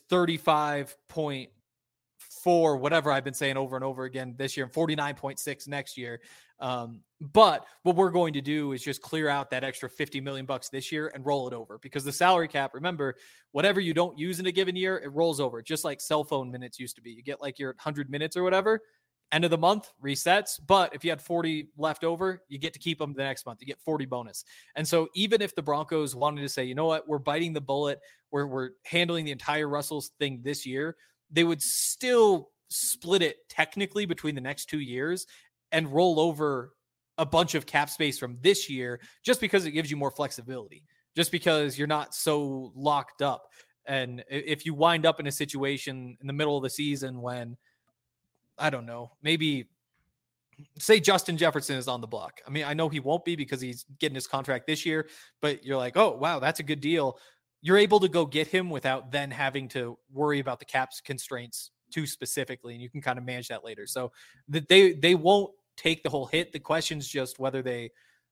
35.4, whatever I've been saying over and over again this year, and 49.6 next year. But what we're going to do is just clear out that extra $50 million this year and roll it over, because the salary cap, remember, whatever you don't use in a given year, it rolls over, just like cell phone minutes used to be. You get like your 100 minutes or whatever, end of the month resets. But if you had 40 left over, you get to keep them the next month. You get 40 bonus. And so even if the Broncos wanted to say, you know what, we're biting the bullet, we're handling the entire Russell's thing this year, they would still split it technically between the next 2 years and roll over a bunch of cap space from this year, just because it gives you more flexibility, just because you're not so locked up. And if you wind up in a situation in the middle of the season when, I don't know, maybe say Justin Jefferson is on the block. I mean, I know he won't be because he's getting his contract this year, but you're like, oh, wow, that's a good deal. You're able to go get him without then having to worry about the cap's constraints too specifically, and you can kind of manage that later. So that they won't take the whole hit. The question's just whether they,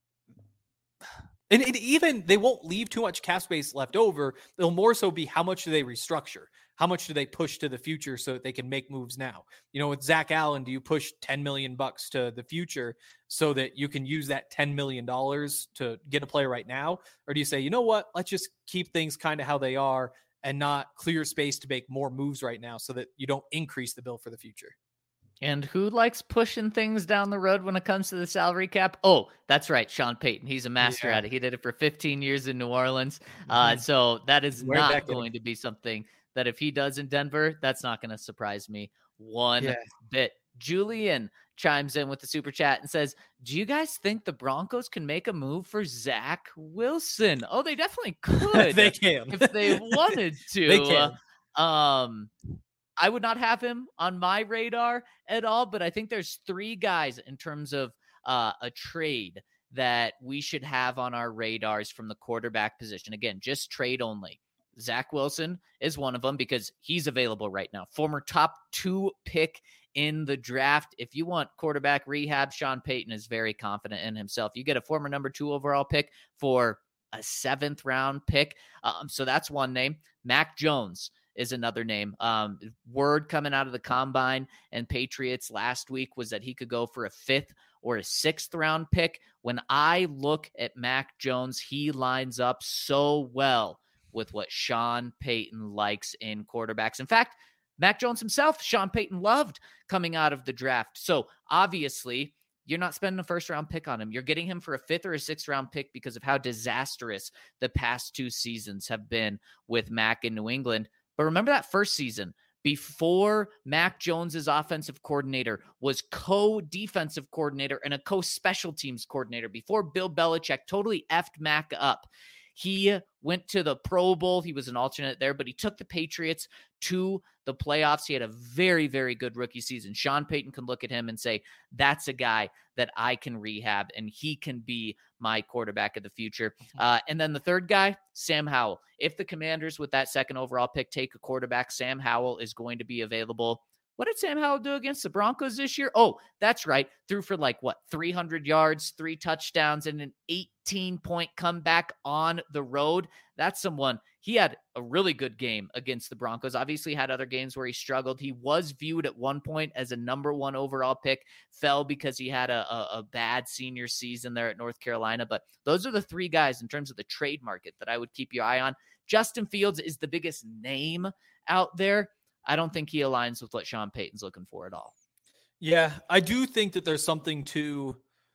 and even they won't leave too much cap space left over. They'll more so be, how much do they restructure? How much do they push to the future so that they can make moves now? You know, with Zach Allen, do you push $10 million to the future so that you can use that $10 million to get a player right now? Or do you say, you know what, let's just keep things kind of how they are and not clear space to make more moves right now so that you don't increase the bill for the future? And who likes pushing things down the road when it comes to the salary cap? Oh, that's right, Sean Payton. He's a master at it. He did it for 15 years in New Orleans. So that is not going to be something that if he does in Denver, that's not going to surprise me one bit. Julian chimes in with the super chat and says, do you guys think the Broncos can make a move for Zach Wilson? Oh, they definitely could. They can. If they wanted to. They can. I would not have him on my radar at all, but I think there's 3 guys in terms of a trade that we should have on our radars from the quarterback position. Again, just trade only. Zach Wilson is one of them because he's available right now. Former top 2 pick in the draft. If you want quarterback rehab, Sean Payton is very confident in himself. You get a former number 2 overall pick for a 7th round pick. So that's one name. Mac Jones is another name. Word coming out of the combine and Patriots last week was that he could go for a 5th or a 6th round pick. When I look at Mac Jones, he lines up so well with what Sean Payton likes in quarterbacks. In fact, Mac Jones himself, Sean Payton loved coming out of the draft. So obviously, you're not spending a 1st round pick on him. You're getting him for a 5th or a 6th round pick because of how disastrous the past 2 seasons have been with Mac in New England. But remember that first season, before Mac Jones's offensive coordinator was co-defensive coordinator and a co-special teams coordinator, before Bill Belichick totally effed Mac up. He went to the Pro Bowl. He was an alternate there, but he took the Patriots to the playoffs. He had a very, very good rookie season. Sean Payton can look at him and say, that's a guy that I can rehab, and he can be my quarterback of the future. And then the 3rd guy, Sam Howell. If the Commanders with that 2nd overall pick take a quarterback, Sam Howell is going to be available. What did Sam Howell do against the Broncos this year? Oh, that's right. Threw for 300 yards, 3 touchdowns, and an 18-point comeback on the road. That's someone. He had a really good game against the Broncos. Obviously had other games where he struggled. He was viewed at one point as a number 1 overall pick, fell because he had a bad senior season there at North Carolina. But those are the 3 guys in terms of the trade market that I would keep your eye on. Justin Fields is the biggest name out there. I don't think he aligns with what Sean Payton's looking for at all. Yeah, I do think that there's something to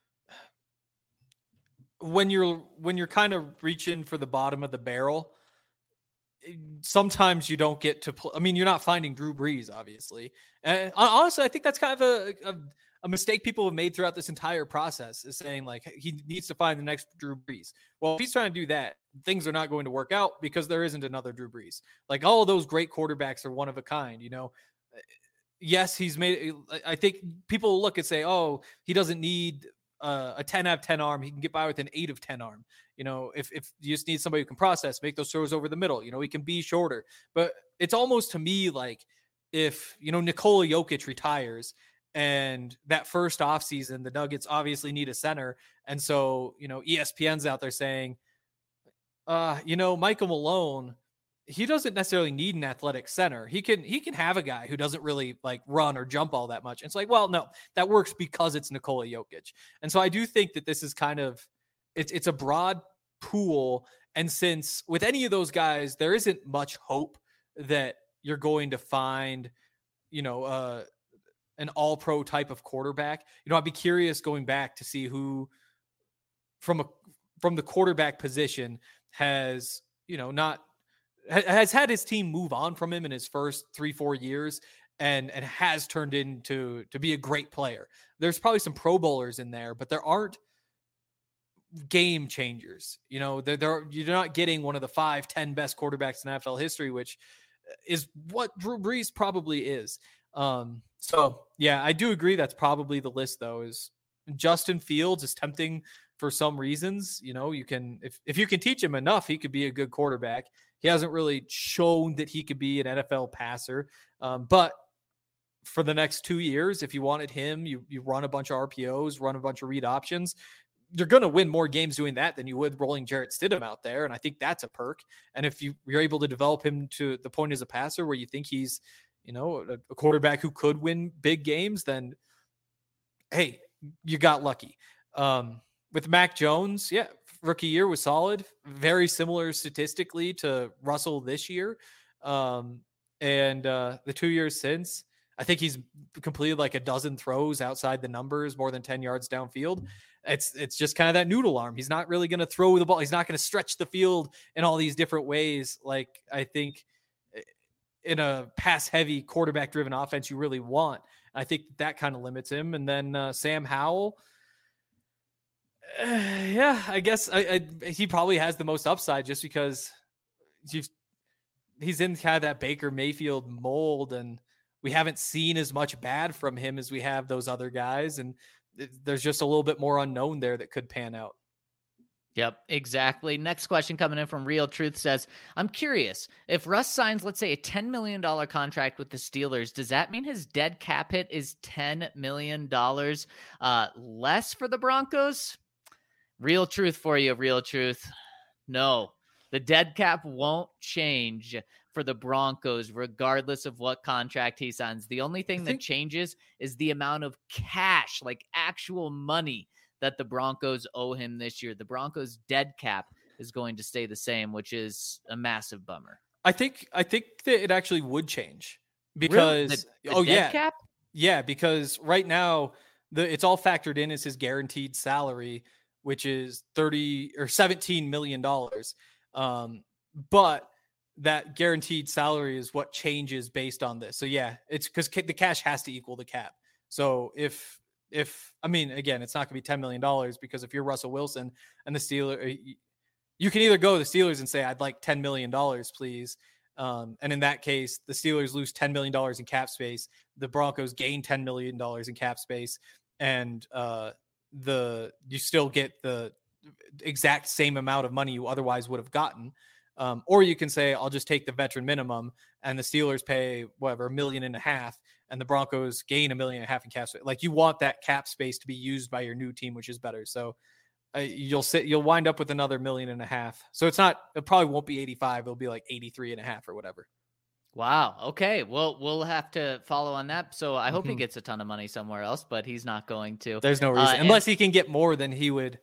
when you're kind of reaching for the bottom of the barrel. Sometimes you don't get to play. I mean, you're not finding Drew Brees, obviously. And honestly, I think that's kind of a mistake people have made throughout this entire process, is saying he needs to find the next Drew Brees. Well, if he's trying to do that, things are not going to work out because there isn't another Drew Brees. All of those great quarterbacks are one of a kind, you know. Yes, he's made. I think people look and say, "Oh, he doesn't need a 10 out of 10 arm. He can get by with an 8 of 10 arm." You know, if you just need somebody who can process, make those throws over the middle. You know, he can be shorter. But it's almost to me like if Nikola Jokic retires. And that first offseason, the Nuggets obviously need a center. And so, ESPN's out there saying, Michael Malone he doesn't necessarily need an athletic center. He can have a guy who doesn't really like run or jump all that much. And it's like, well, no, that works because it's Nikola Jokic. And so I do think that this is kind of, it's a broad pool. And since with any of those guys, there isn't much hope that you're going to find, an all-pro type of quarterback. I'd be curious going back to see who from the quarterback position has had his team move on from him in his first 3-4 years and has turned into to be a great player. There's probably some Pro Bowlers in there, but there aren't game changers. You're not getting one of the 5-10 best quarterbacks in NFL history, which is what Drew Brees probably is. So yeah, I do agree. That's probably the list though, is Justin Fields is tempting for some reasons. You can, if you can teach him enough, he could be a good quarterback. He hasn't really shown that he could be an NFL passer. But for the next 2 years, if you wanted him, you run a bunch of RPOs, run a bunch of read options. You're going to win more games doing that than you would rolling Jarrett Stidham out there. And I think that's a perk. And if you're able to develop him to the point as a passer where you think he's, a quarterback who could win big games, then hey, you got lucky. With Mac Jones, yeah, rookie year was solid, very similar statistically to Russell this year. And the 2 years since, I think he's completed like a dozen throws outside the numbers, more than 10 yards downfield. It's just kind of that noodle arm. He's not really going to throw the ball. He's not going to stretch the field in all these different ways. Like I think in a pass heavy quarterback driven offense, you really want. I think that kind of limits him. And then Sam Howell, yeah, I guess he probably has the most upside just because he's in kind of that Baker Mayfield mold, and we haven't seen as much bad from him as we have those other guys. And there's just a little bit more unknown there that could pan out. Yep, exactly. Next question coming in from Real Truth says, I'm curious, if Russ signs, let's say, a $10 million contract with the Steelers, does that mean his dead cap hit is $10 million less for the Broncos? Real truth for you, Real Truth. No, the dead cap won't change for the Broncos, regardless of what contract he signs. The only thing that changes is the amount of cash, like actual money, that the Broncos owe him this year. The Broncos' dead cap is going to stay the same, which is a massive bummer. I think that it actually would change because really? Dead cap? Yeah, because right now it's all factored in as his guaranteed salary, which is $17 million. But that guaranteed salary is what changes based on this. So yeah, it's because the cash has to equal the cap. So if I mean, again, it's not going to be $10 million because if you're Russell Wilson and the Steelers, you can either go to the Steelers and say, I'd like $10 million, please. And in that case, the Steelers lose $10 million in cap space. The Broncos gain $10 million in cap space. And you still get the exact same amount of money you otherwise would have gotten. Or you can say, I'll just take the veteran minimum and the Steelers pay whatever, $1.5 million, and the Broncos gain $1.5 million in cap space. Like you want that cap space to be used by your new team, which is better. So you'll wind up with another $1.5 million. So it probably won't be 85. It'll be like 83.5 or whatever. Wow. Okay. Well, we'll have to follow on that. So I hope he gets a ton of money somewhere else, but he's not going to. There's no reason unless he can get more than he would.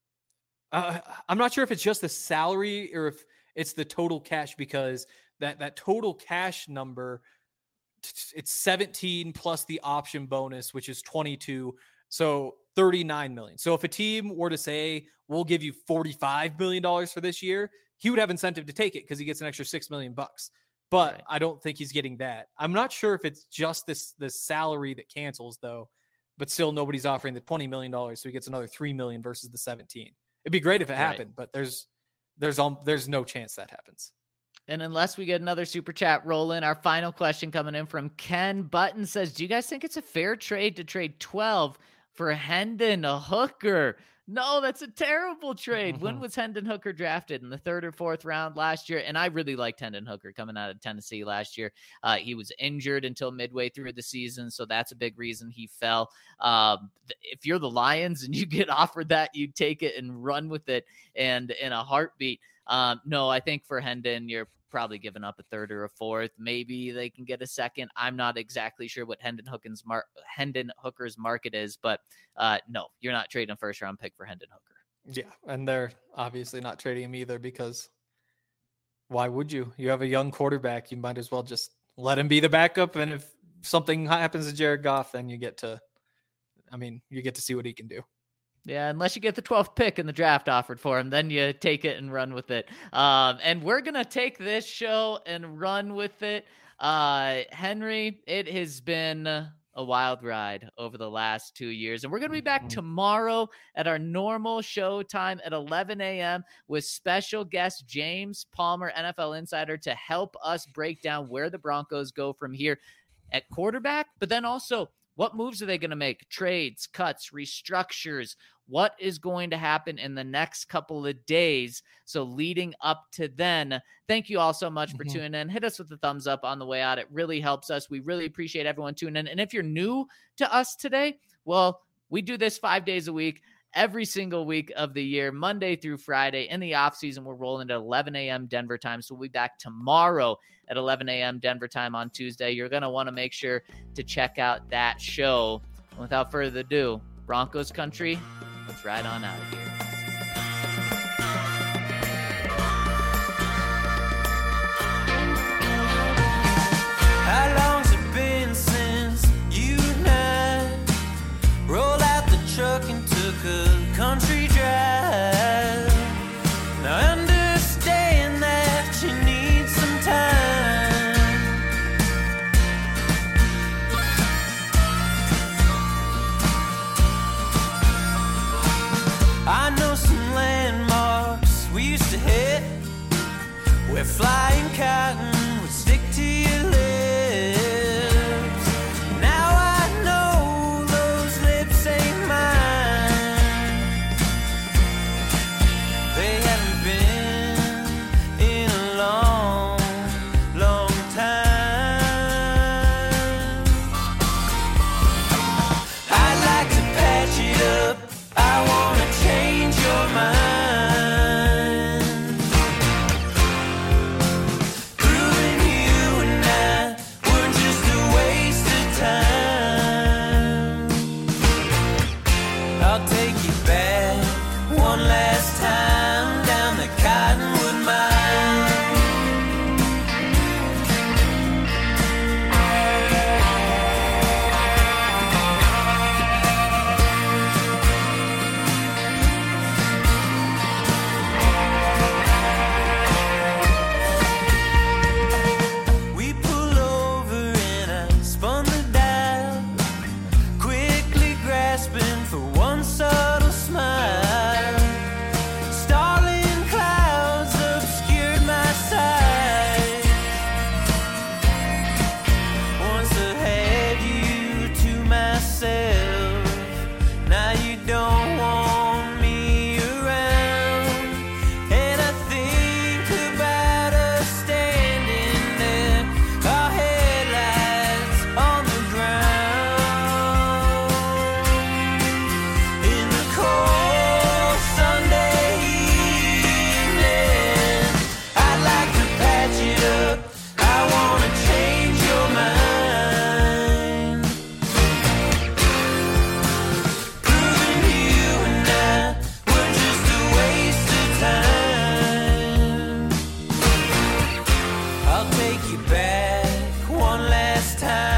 I'm not sure if it's just the salary or if it's the total cash, because that total cash number, it's 17 plus the option bonus, which is 22. So 39 million. So if a team were to say, we'll give you $45 million for this year, he would have incentive to take it because he gets an extra $6 million. But right. I don't think he's getting that. I'm not sure if it's just this salary that cancels though, but still nobody's offering the $20 million. So he gets another 3 million versus the 17. It'd be great if it happened, but there's no chance that happens. And unless we get another super chat rolling, our final question coming in from Ken Button says, do you guys think it's a fair trade to trade 12 for Hendon Hooker? No, that's a terrible trade. When was Hendon Hooker drafted? In the 3rd or 4th round last year? And I really liked Hendon Hooker coming out of Tennessee last year. He was injured until midway through the season, so that's a big reason he fell. If you're the Lions and you get offered that, you take it and run with it and in a heartbeat. No, I think for Hendon, you're probably given up a third or a fourth. Maybe they can get a second. I'm not exactly sure what Hendon Hooker's market is, but no, you're not trading a first-round pick for Hendon Hooker. Yeah, and they're obviously not trading him either because why would you? You have a young quarterback. You might as well just let him be the backup, and if something happens to Jared Goff, then you get to see what he can do. Yeah, unless you get the 12th pick in the draft offered for him, then you take it and run with it. And we're going to take this show and run with it. Henry, it has been a wild ride over the last 2 years. And we're going to be back tomorrow at our normal show time at 11 a.m. with special guest James Palmer, NFL Insider, to help us break down where the Broncos go from here at quarterback, but then also what moves are they going to make? Trades, cuts, restructures. What is going to happen in the next couple of days? So leading up to then, thank you all so much for tuning in. Hit us with a thumbs up on the way out. It really helps us. We really appreciate everyone tuning in. And if you're new to us today, well, we do this 5 days a week, every single week of the year, Monday through Friday. In the off season, we're rolling at 11 a.m. Denver time. So we'll be back tomorrow at 11 a.m. Denver time on Tuesday. You're going to want to make sure to check out that show. Without further ado, Broncos country, let's ride on out of here. How long's it been since you and I rolled out the truck and took a country drive? Now understand that you need some time. I know some landmarks we used to hit where flying cotton would stick to your lips. Now I know those lips ain't mine. They haven't been in a long, long time. I'd like to patch it up. I wanna change your mind. Proving you and I were just a waste of time. I'll take you back one last time down the Cottonwood Mine. We pull over and I spun the dial, quickly grasping for one subtle smile. Starling clouds obscured my sight. Once I had you to myself, now you don't want me around. And I think about us standing there, our headlights on the ground. In the cold Sunday evening, I'd like to patch it up. I wanna change your mind. Proving you and I were just a waste of time. I'll take you back one last time.